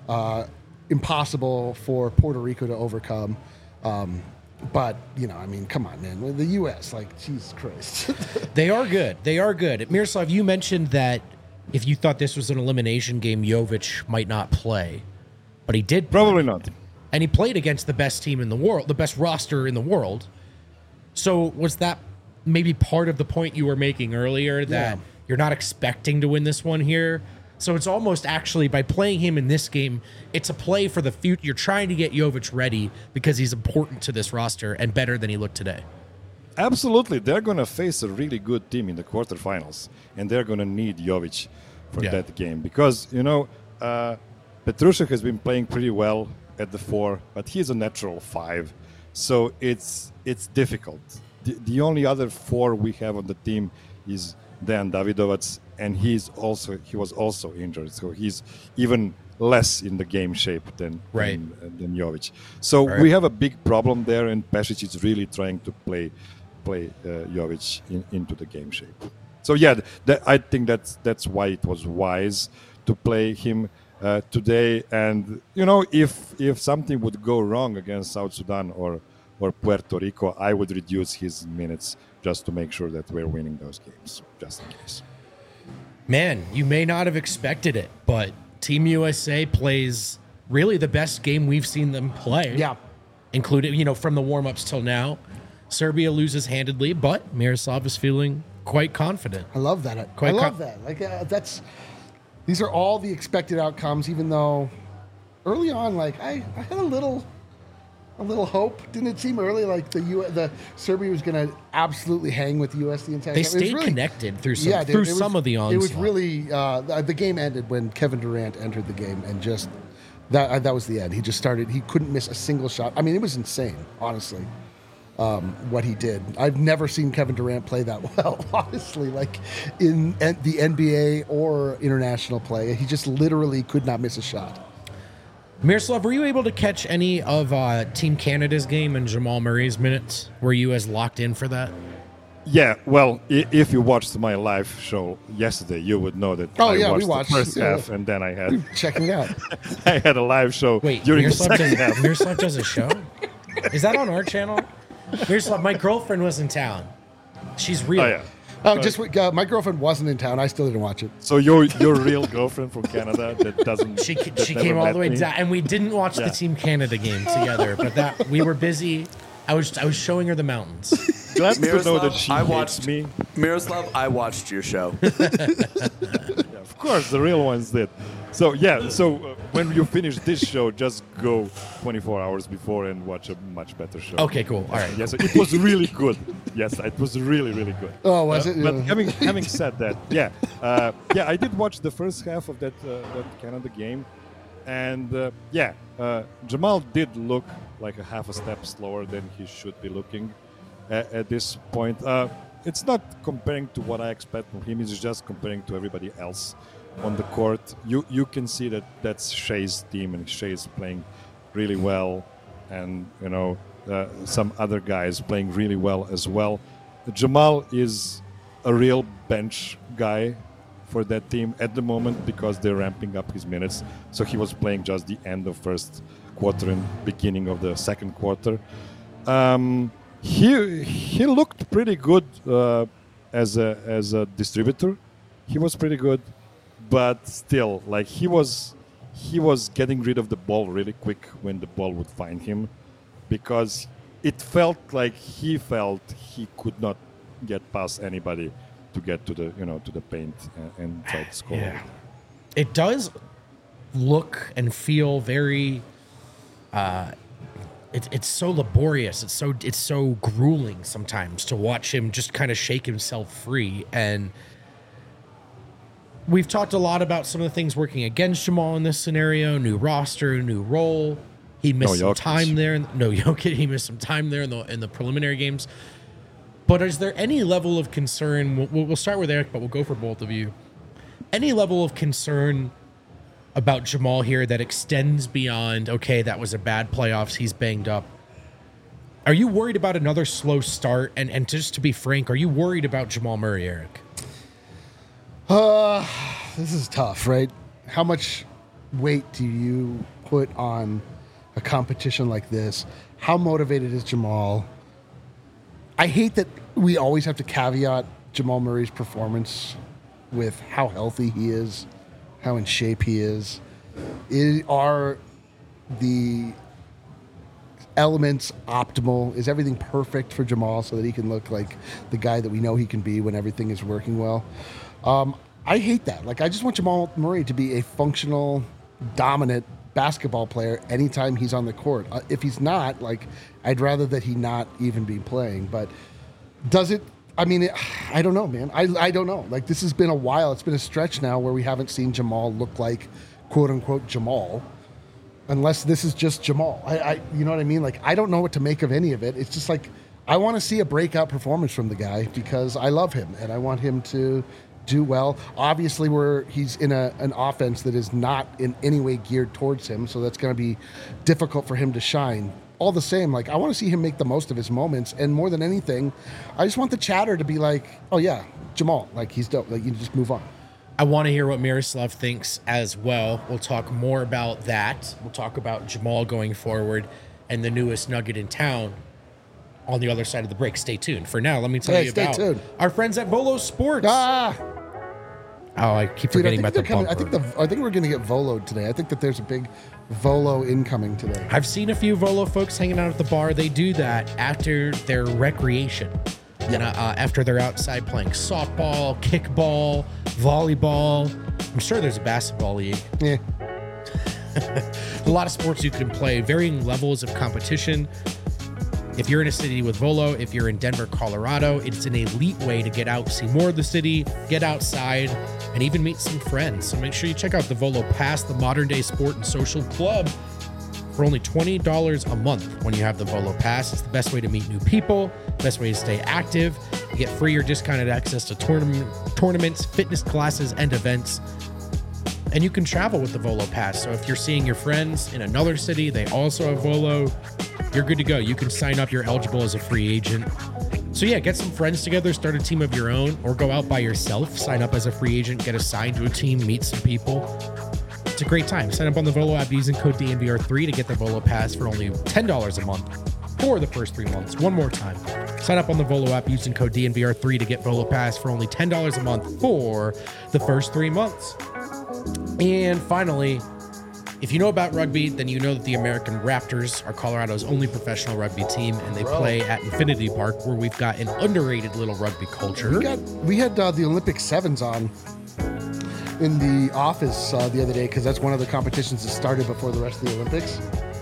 impossible for Puerto Rico to overcome. But, I mean, come on, man. The U.S., like, Jesus Christ. They are good. Miroslav, you mentioned that if you thought this was an elimination game, Jovic might not play. But he did play. Probably not. And he played against the best team in the world, the best roster in the world. So was that maybe part of the point you were making earlier, that you're not expecting to win this one here? So it's almost actually, by playing him in this game, it's a play for the future. You're trying to get Jovic ready because he's important to this roster and better than he looked today. Absolutely. They're going to face a really good team in the quarterfinals, and they're going to need Jovic for that game. Because, Petrushek has been playing pretty well at the 4, but he's a natural 5. So it's difficult. The only other 4 we have on the team is Dejan Davidovac, and he was also injured, so he's even less in the game shape than Jovic. So we have a big problem there, and Pešić is really trying to play Jovic into the game shape. So I think that's why it was wise to play him today. And if something would go wrong against South Sudan or Puerto Rico, I would reduce his minutes just to make sure that we're winning those games, just in case. Man, you may not have expected it, but Team USA plays really the best game we've seen them play. Yeah. including, from the warm-ups till now. Serbia loses handedly, but Miroslav is feeling quite confident. I love that. I love that. Like these are all the expected outcomes. Even though early on, like I had a little hope. Didn't it seem early like the Serbia was going to absolutely hang with the U.S. the entire They time? stayed connected through some of the onslaught. It was really the game ended when Kevin Durant entered the game, and just that was the end. He just started. He couldn't miss a single shot. I mean, it was insane, honestly. What he did. I've never seen Kevin Durant play that well, honestly, like in the NBA or international play. He just literally could not miss a shot. Miroslav, were you able to catch any of Team Canada's game and Jamal Murray's minutes? Were you as locked in for that? Yeah, well, if you watched my live show yesterday, you would know that we watched the first half, and then I had checking out. I had a live show during the second half. Miroslav does a show? Is that on our channel? Miroslav, my girlfriend was in town. She's real. Oh, yeah. My girlfriend wasn't in town. I still didn't watch it. So your real girlfriend from Canada that doesn't. She came all the way down, and we didn't watch the Team Canada game together. But that we were busy. I was showing her the mountains. Glad to know that she watched me. Miroslav, I watched your show. Yeah, of course, the real ones did. So when you finish this show, just go 24 hours before and watch a much better show. Okay, cool. All right. Yes, it was really good. Yes, it was really, really good. Oh, was it? But having said that, I did watch the first half of that Canada game, and Jamal did look like a half a step slower than he should be looking at this point. It's not comparing to what I expect from him. It's just comparing to everybody else on the court. You can see that that's Shea's team, and Shea's playing really well, and some other guys playing really well as well. Jamal is a real bench guy for that team at the moment because they're ramping up his minutes. So he was playing just the end of first quarter and beginning of the second quarter. He looked pretty good as a distributor. He was pretty good. But still, like he was getting rid of the ball really quick when the ball would find him, because it felt like he could not get past anybody to get to the paint and try to score. Yeah. It does look and feel very. It's so laborious. It's so grueling sometimes to watch him just kind of shake himself free. And we've talked a lot about some of the things working against Jamal in this scenario. New roster, new role. He missed some time there. No Jokic. He missed some time there in the preliminary games. But is there any level of concern? We'll start with Eric, but we'll go for both of you. Any level of concern about Jamal here that extends beyond, okay, that was a bad playoffs, he's banged up? Are you worried about another slow start? And just to be frank, are you worried about Jamal Murray, Eric? This is tough, right? How much weight do you put on a competition like this? How motivated is Jamal? I hate that we always have to caveat Jamal Murray's performance with how healthy he is, how in shape he is. Are the elements optimal? Is everything perfect for Jamal so that he can look like the guy that we know he can be when everything is working well? I hate that. Like, I just want Jamal Murray to be a functional, dominant basketball player anytime he's on the court. If he's not, like, I'd rather that he not even be playing. But does it? I mean, I don't know, man. I don't know. Like, this has been a while. It's been a stretch now where we haven't seen Jamal look like, quote unquote, Jamal. Unless this is just Jamal. You know what I mean? Like, I don't know what to make of any of it. It's just like, I want to see a breakout performance from the guy because I love him and I want him to do well. Obviously, he's in an offense that is not in any way geared towards him, so that's going to be difficult for him to shine. All the same, like, I want to see him make the most of his moments, and more than anything, I just want the chatter to be like, oh yeah, Jamal, like, he's dope. Like, you just move on. I want to hear what Miroslav thinks as well. We'll talk more about that. We'll talk about Jamal going forward and the newest nugget in town on the other side of the break. Stay tuned. For now, let me tell you about tuned. our friends at Volo Sports. Oh, I keep Dude, I forgetting think about the they're coming. bumper. I think we're going to get Volo'd today. I think that there's a big Volo incoming today. I've seen a few Volo folks hanging out at the bar. They do that after their recreation. And after they're outside playing softball, kickball, volleyball. I'm sure there's a basketball league. Yeah. A lot of sports you can play, varying levels of competition. If you're in a city with Volo, if you're in Denver, Colorado, it's an elite way to get out, see more of the city, get outside, and even meet some friends. So make sure you check out the Volo Pass, the modern day sport and social club, for only $20 a month when you have the Volo Pass. It's the best way to meet new people, best way to stay active. You get free or discounted access to tournaments, fitness classes, and events. And you can travel with the Volo Pass. So if you're seeing your friends in another city, they also have Volo, you're good to go. You can sign up. You're eligible as a free agent. So yeah, get some friends together, start a team of your own, or go out by yourself, sign up as a free agent, get assigned to a team, meet some people. It's a great time. Sign up on the Volo app using code DNVR3 to get the Volo Pass for only $10 a month for the first 3 months. One more time. Sign up on the Volo app using code DNVR3 to get Volo Pass for only $10 a month for the first 3 months. And finally, if you know about rugby, then you know that the American Raptors are Colorado's only professional rugby team, and they play at Infinity Park, where we've got an underrated little rugby culture. We had the Olympic Sevens on in the office the other day because that's one of the competitions that started before the rest of the Olympics.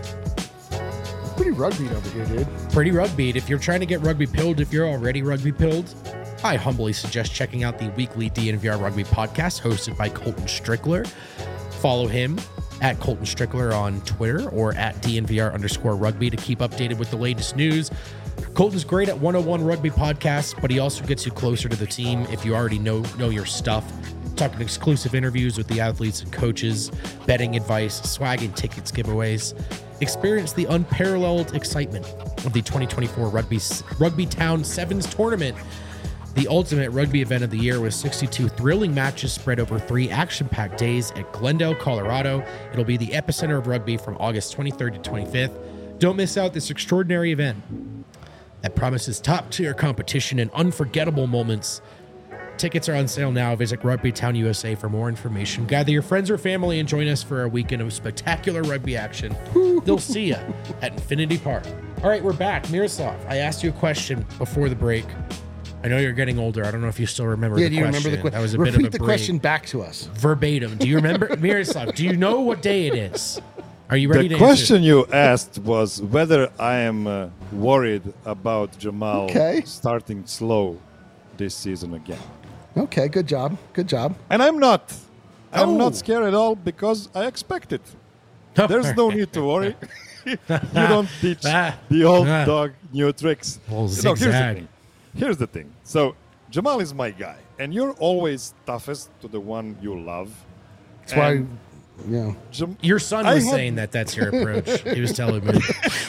Pretty rugby over here, dude. Pretty rugby. If you're trying to get rugby pilled, if you're already rugby pilled, I humbly suggest checking out the weekly DNVR Rugby podcast hosted by Colton Strickler. Follow him at Colton Strickler on Twitter or at DNVR_rugby to keep updated with the latest news. Colton's great at 101 Rugby podcasts, but he also gets you closer to the team if you already know your stuff. Talking exclusive interviews with the athletes and coaches, betting advice, swag and tickets giveaways. Experience the unparalleled excitement of the 2024 Rugby Town Sevens tournament, the ultimate rugby event of the year, with 62 thrilling matches spread over 3 action-packed days at Glendale, Colorado. It'll be the epicenter of rugby from August 23rd to 25th. Don't miss out this extraordinary event that promises top-tier competition and unforgettable moments. Tickets are on sale now. Visit Rugby Town USA for more information. Gather your friends or family and join us for a weekend of spectacular rugby action. They'll see you at Infinity Park. All right, we're back. Miroslav, I asked you a question before the break. I know you're getting older. I don't know if you still remember the question. Yeah, do you remember the question? That was a Repeat bit of a the break. question back to us. Verbatim. Do you remember? Miroslav, do you know what day it is? Are you ready The to question answer? you asked was whether I am worried about Jamal starting slow this season again. Okay, good job. Good job. And I'm not. I'm Oh. not scared at all because I expect it. There's no need to worry. You don't teach the old dog new tricks. Well, No, zigzag. Here's the thing. So Jamal is my guy, and you're always toughest to the one you love. That's why, And yeah. Your son I was had- saying that that's your approach. He was telling me.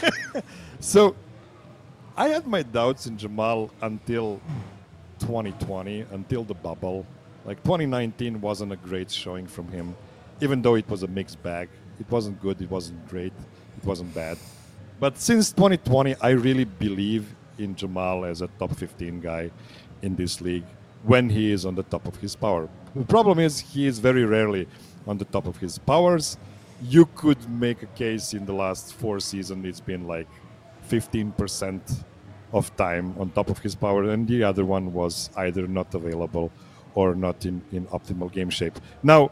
So I had my doubts in Jamal until 2020, until the bubble. Like 2019 wasn't a great showing from him, even though it was a mixed bag. It wasn't good, it wasn't great, it wasn't bad. But since 2020, I really believe in Jamal as a top 15 guy in this league when he is on the top of his power. The problem is he is very rarely on the top of his powers. You could make a case in the last 4 seasons it's been like 15% of time on top of his power, and the other one was either not available or not in optimal game shape. Now,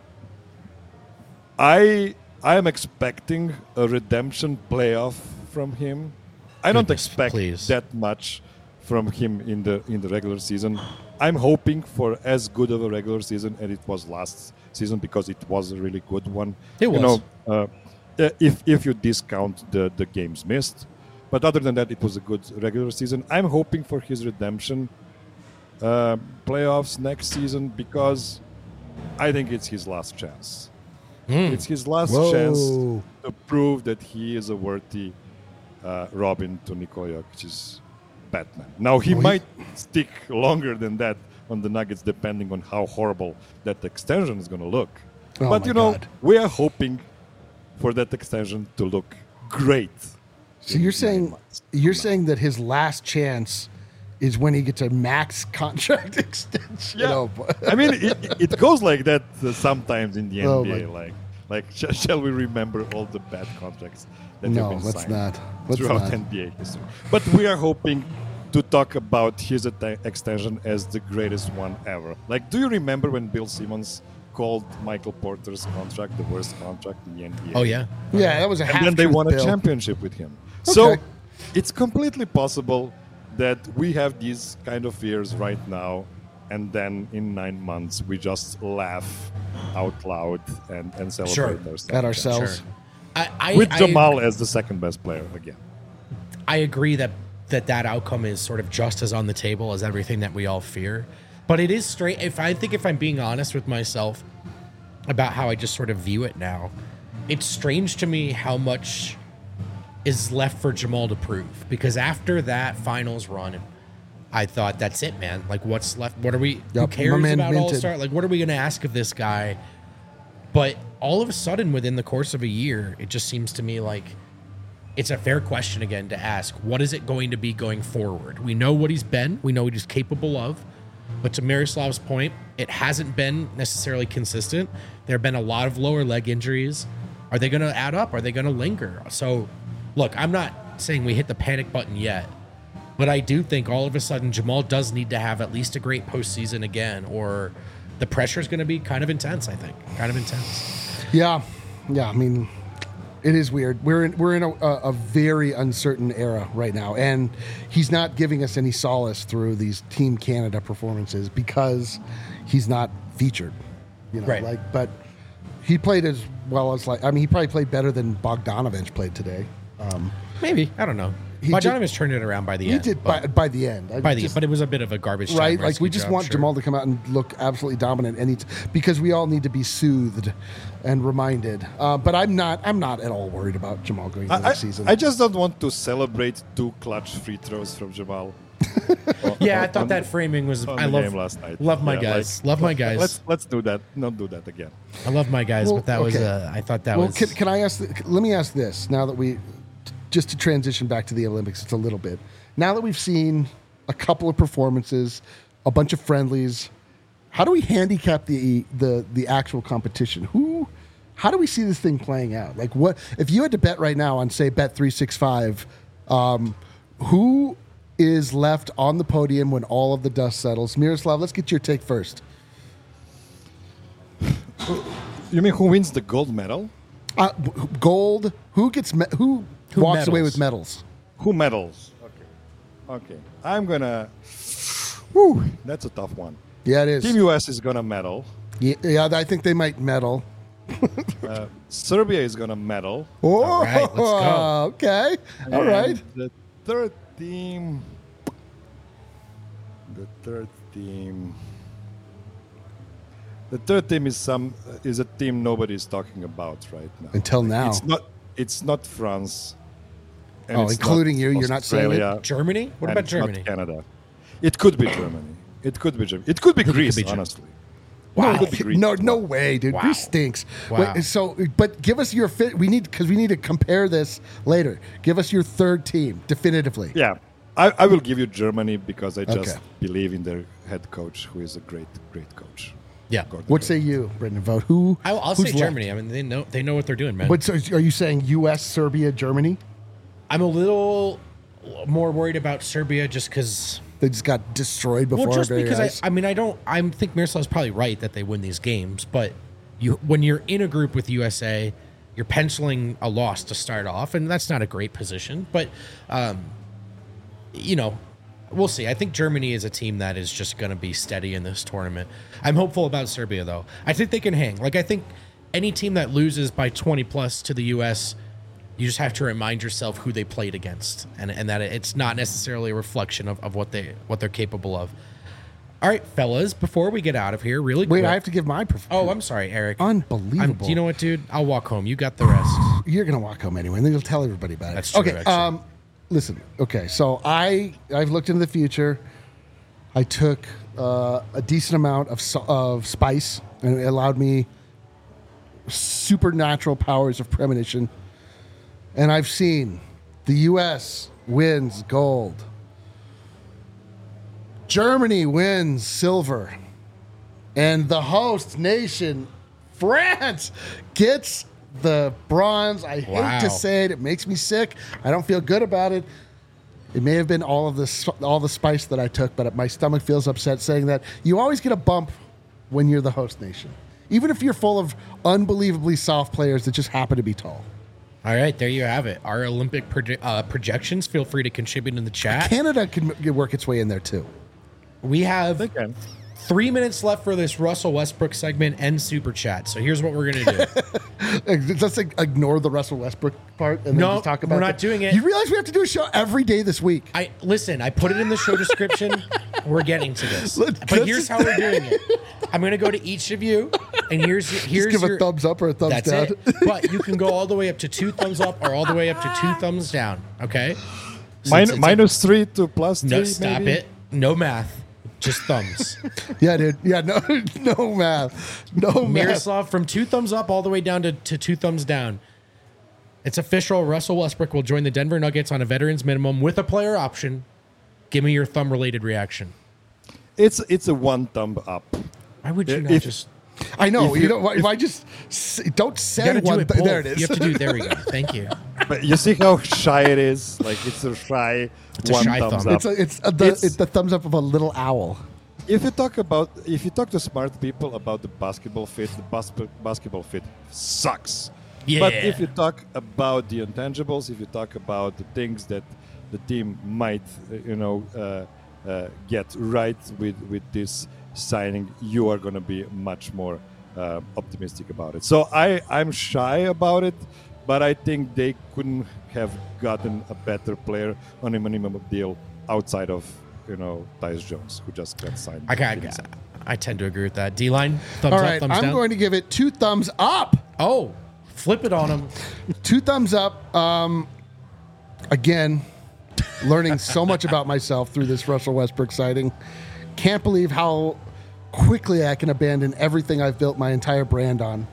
I am expecting a redemption playoff from him. I don't Goodness, expect please. that much from him in the regular season. I'm hoping for as good of a regular season as it was last season because it was a really good one. It was. You know, if you discount the games missed. But other than that, it was a good regular season. I'm hoping for his redemption playoffs next season because I think it's his last chance. It's his last chance to prove that he is a worthy Robin to Nikola Jokic's Batman. Now, he might stick longer than that on the Nuggets depending on how horrible that extension is going to look. Oh But, my you know, God. we are hoping for that extension to look great. So you're saying that his last chance is when he gets a max contract extension. Yeah. But- I mean, it goes like that sometimes in the Oh, NBA. Shall we remember all the bad contracts that No, have been let's signed not. Let's throughout not. NBA history? But we are hoping to talk about his extension as the greatest one ever. Like, do you remember when Bill Simmons called Michael Porter's contract the worst contract in the NBA? Oh yeah. Yeah, that was a half. And then they truth, won a Bill. championship with him. So Okay. it's completely possible that we have these kind of fears right now, and then in 9 months we just laugh out loud and celebrate Sure. ourselves. At ourselves. Sure. I, With I- Jamal as the second best player again. I agree that outcome is sort of just as on the table as everything that we all fear. But it is straight. If I'm being honest with myself about how I just sort of view it now, it's strange to me how much is left for Jamal to prove. Because after that finals run, I thought that's it, man. Like, what's left? What are we? Who Yep, cares my man about minted. All-Star? Like, what are we going to ask of this guy? But all of a sudden, within the course of a year, it just seems to me like it's a fair question again to ask. What is it going to be going forward? We know what he's been. We know what he's capable of. But to Miroslav's point, it hasn't been necessarily consistent. There have been a lot of lower leg injuries. Are they going to add up? Are they going to linger? So, look, I'm not saying we hit the panic button yet. But I do think all of a sudden Jamal does need to have at least a great postseason again, or the pressure is going to be kind of intense, I think. Kind of intense. Yeah. I mean, it is weird. We're in a very uncertain era right now, and he's not giving us any solace through these Team Canada performances because he's not featured. Right. But he played as well as he probably played better than Bogdanovich played today. Maybe. I don't know. He Bogdanovich turned it around by the He end. did but- by the end. but it was a bit of a garbage time Right, like rescue we just job, want sure. Jamal to come out and look absolutely dominant, and because we all need to be soothed and reminded. But I'm not at all worried about Jamal going into next season. I just don't want to celebrate 2 clutch free throws from Jamal. Yeah, I thought that framing was. on I the love game last night. love my Yeah, guys. Love my guys. Let's do that. Not do that again. I love my guys, Well, but that was. okay. I thought that well, was. can I ask? Let me ask this. Now that just to transition back to the Olympics, it's a little bit. Now that we've seen a couple of performances, a bunch of friendlies, how do we handicap the actual competition? How do we see this thing playing out? Like, what if you had to bet right now on, say, Bet365? Who is left on the podium when all of the dust settles? Miroslav, let's get your take first. You mean who wins the gold medal? Gold. Who walks away medals? with medals? Who medals? Okay. I'm gonna. Whew, that's a tough one. Yeah, it is. Team US is gonna medal. Yeah, I think they might medal. Serbia is gonna medal. Oh, All right, let's go. Okay. All And right. The third team. The third team is a team nobody's talking about right now. Until now. It's not France. and Oh, it's including not you. You're not saying it? Australia, Germany? What and about it's not Germany? Canada. It could be Germany. It could be Germany. It could be Greece, be Germany. honestly. Wow. It could be Greece No, as no well. way, dude. Wow. Greece stinks. Wow. But give us your fit. We need to compare this later. Give us your third team definitively. Yeah. I will give you Germany because I just Okay. believe in their head coach, who is a great, great coach. Yeah. Gordon What Hayward. say you, Brendan Vogt? Who? I'll who's say left? Germany. I mean, they know what they're doing, man. But so are you saying U.S., Serbia, Germany? I'm a little more worried about Serbia just because. They just got destroyed before Well, just our very because eyes. I think Miroslav's probably right that they win these games, but when you're in a group with USA, you're penciling a loss to start off, and that's not a great position. But we'll see. I think Germany is a team that is just going to be steady in this tournament. I'm hopeful about Serbia, though. I think they can hang. Like, I think any team that loses by 20 plus to the U.S., you just have to remind yourself who they played against, and that it's not necessarily a reflection of what they're capable of. All right, fellas, before we get out of here, really Wait, quick. I have to give my Oh, I'm sorry, Eric. Unbelievable. You know what, dude? I'll walk home. You got the rest. You're gonna walk home anyway, and then you'll tell everybody about it. That's true, Okay. actually. Listen. Okay. So I've looked into the future. I took a decent amount of spice, and it allowed me supernatural powers of premonition. And I've seen the U.S. wins gold Germany wins silver. And the host nation, France, gets the bronze. I hate to say it. It makes me sick. I don't feel good about it. It may have been all the spice that I took, but my stomach feels upset saying that you always get a bump when you're the host nation, even if you're full of unbelievably soft players that just happen to be tall. All right, there you have it. Our Olympic projections. Feel free to contribute in the chat. Canada can work its way in there too. We have They can. 3 minutes left for this Russell Westbrook segment and super chat. So here's what we're going to do. Just ignore the Russell Westbrook part and then just talk about we're not doing it. You realize we have to do a show every day this week. I put it in the show description. We're getting to this. But here's how we're doing it. I'm going to go to each of you, and here's Just give a thumbs up or a thumbs that's down. it. But you can go all the way up to 2 thumbs up or all the way up to 2 thumbs down. Okay? Minus 3 to plus 3. No, stop maybe? it. No math. Just thumbs. Yeah, dude. Yeah, no math. No math. Miroslav, from 2 thumbs up all the way down to 2 thumbs down. It's official. Russell Westbrook will join the Denver Nuggets on a veterans minimum with a player option. Give me your thumb-related reaction. It's a 1 thumb up. Why would you not If- just... I know. If You you- know, if I just don't You say gotta do one it thing. both. There it is. You have to do... There we go. Thank you. But you see how shy it is? Like, it's a shy It's a 1 shy thumbs thumb. up. It's the thumbs up of a little owl. If you talk to smart people about the basketball fit sucks. Yeah. But if you talk about the intangibles, if you talk about the things that the team might, get right with this signing, you are going to be much more optimistic about it. So I'm shy about it, but I think they couldn't have gotten a better player on a minimum deal outside of Tyus Jones, who just got signed. I tend to agree with that. D-line, thumbs All up, right, thumbs I'm down. going to give it 2 thumbs up. Oh, flip it on him. 2 thumbs up. Again, learning so much about myself through this Russell Westbrook sighting. Can't believe how quickly I can abandon everything I've built my entire brand on.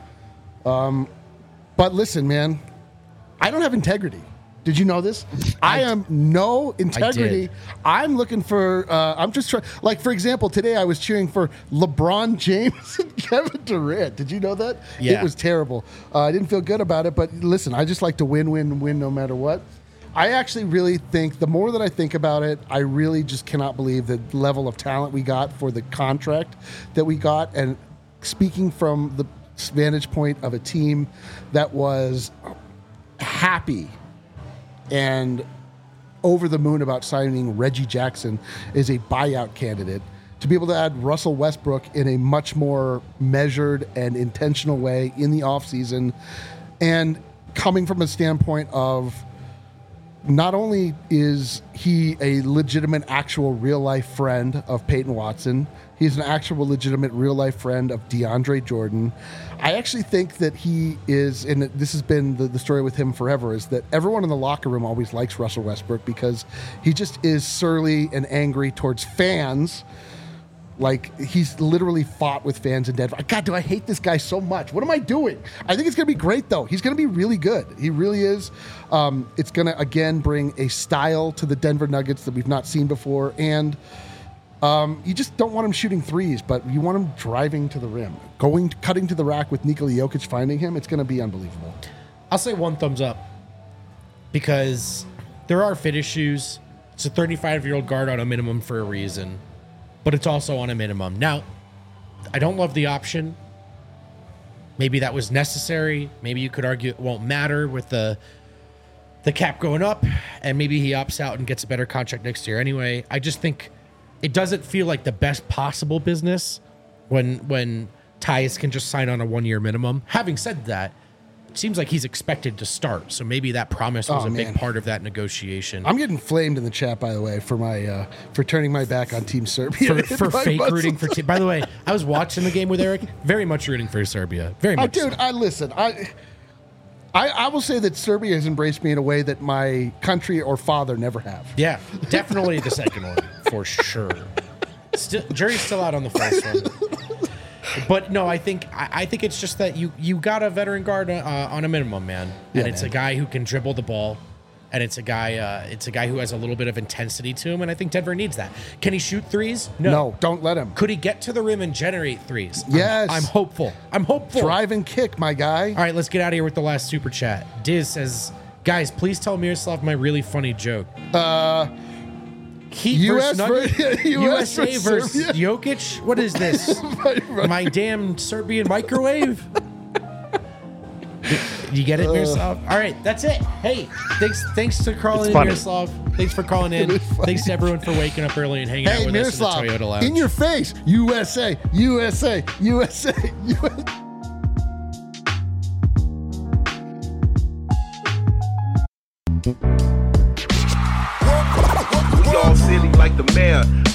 But listen, man, I don't have integrity. Did you know this? I am no integrity. I'm looking for, I'm just trying, like, for example, today I was cheering for LeBron James and Kevin Durant. Did you know that? Yeah. It was terrible. I didn't feel good about it, but listen, I just like to win no matter what. I actually really think, the more that I think about it, I really just cannot believe the level of talent we got for the contract that we got. And speaking from the vantage point of a team that was happy and over the moon about signing Reggie Jackson as a buyout candidate, to be able to add Russell Westbrook in a much more measured and intentional way in the offseason, and coming from a standpoint of not only is he a legitimate, actual, real-life friend of Peyton Watson, he's an actual, legitimate, real-life friend of DeAndre Jordan. I actually think that he is, and this has been the story with him forever, is that everyone in the locker room always likes Russell Westbrook because he just is surly and angry towards fans. Like, he's literally fought with fans in Denver. God, do I hate this guy so much. What am I doing? I think it's going to be great, though. He's going to be really good. He really is. It's going to, again, bring a style to the Denver Nuggets that we've not seen before. And you just don't want him shooting threes, but you want him driving to the rim. Cutting to the rack with Nikola Jokic finding him, it's going to be unbelievable. I'll say 1 thumbs up because there are fit issues. It's a 35-year-old guard on a minimum for a reason, but it's also on a minimum. Now, I don't love the option. Maybe that was necessary. Maybe you could argue it won't matter with the cap going up, and maybe he opts out and gets a better contract next year anyway. I just think it doesn't feel like the best possible business when Tyus can just sign on a 1-year minimum. Having said that, it seems like he's expected to start, so maybe that promise was a big part of that negotiation. I'm getting flamed in the chat, by the way, for my for turning my back on Team Serbia. for fake rooting for By the way, I was watching the game with Eric, very much rooting for Serbia. Very much. Dude, so. I will say that Serbia has embraced me in a way that my country or father never have. Yeah, definitely the second one, for sure. Jury's still out on the first one. But no, I think it's just that you got a veteran guard on a minimum, man. And it's a guy who can dribble the ball. And it's a guy who has a little bit of intensity to him, and I think Denver needs that. Can he shoot threes? No, don't let him. Could he get to the rim and generate threes? Yes. I'm hopeful. Drive and kick, my guy. All right, let's get out of here with the last super chat. Diz says, guys, please tell Miroslav my really funny joke. Heat US USA versus Serbia. Jokic? What is this? My damn Serbian microwave? You get it, Miroslav? All right, that's it. Hey, thanks to calling in, funny. Miroslav. Thanks for calling in. Thanks to everyone for waking up early and hanging out Hey, with Miroslav, us in the Toyota Lounge. in your face, USA, USA, USA, USA. We all silly like the mayor.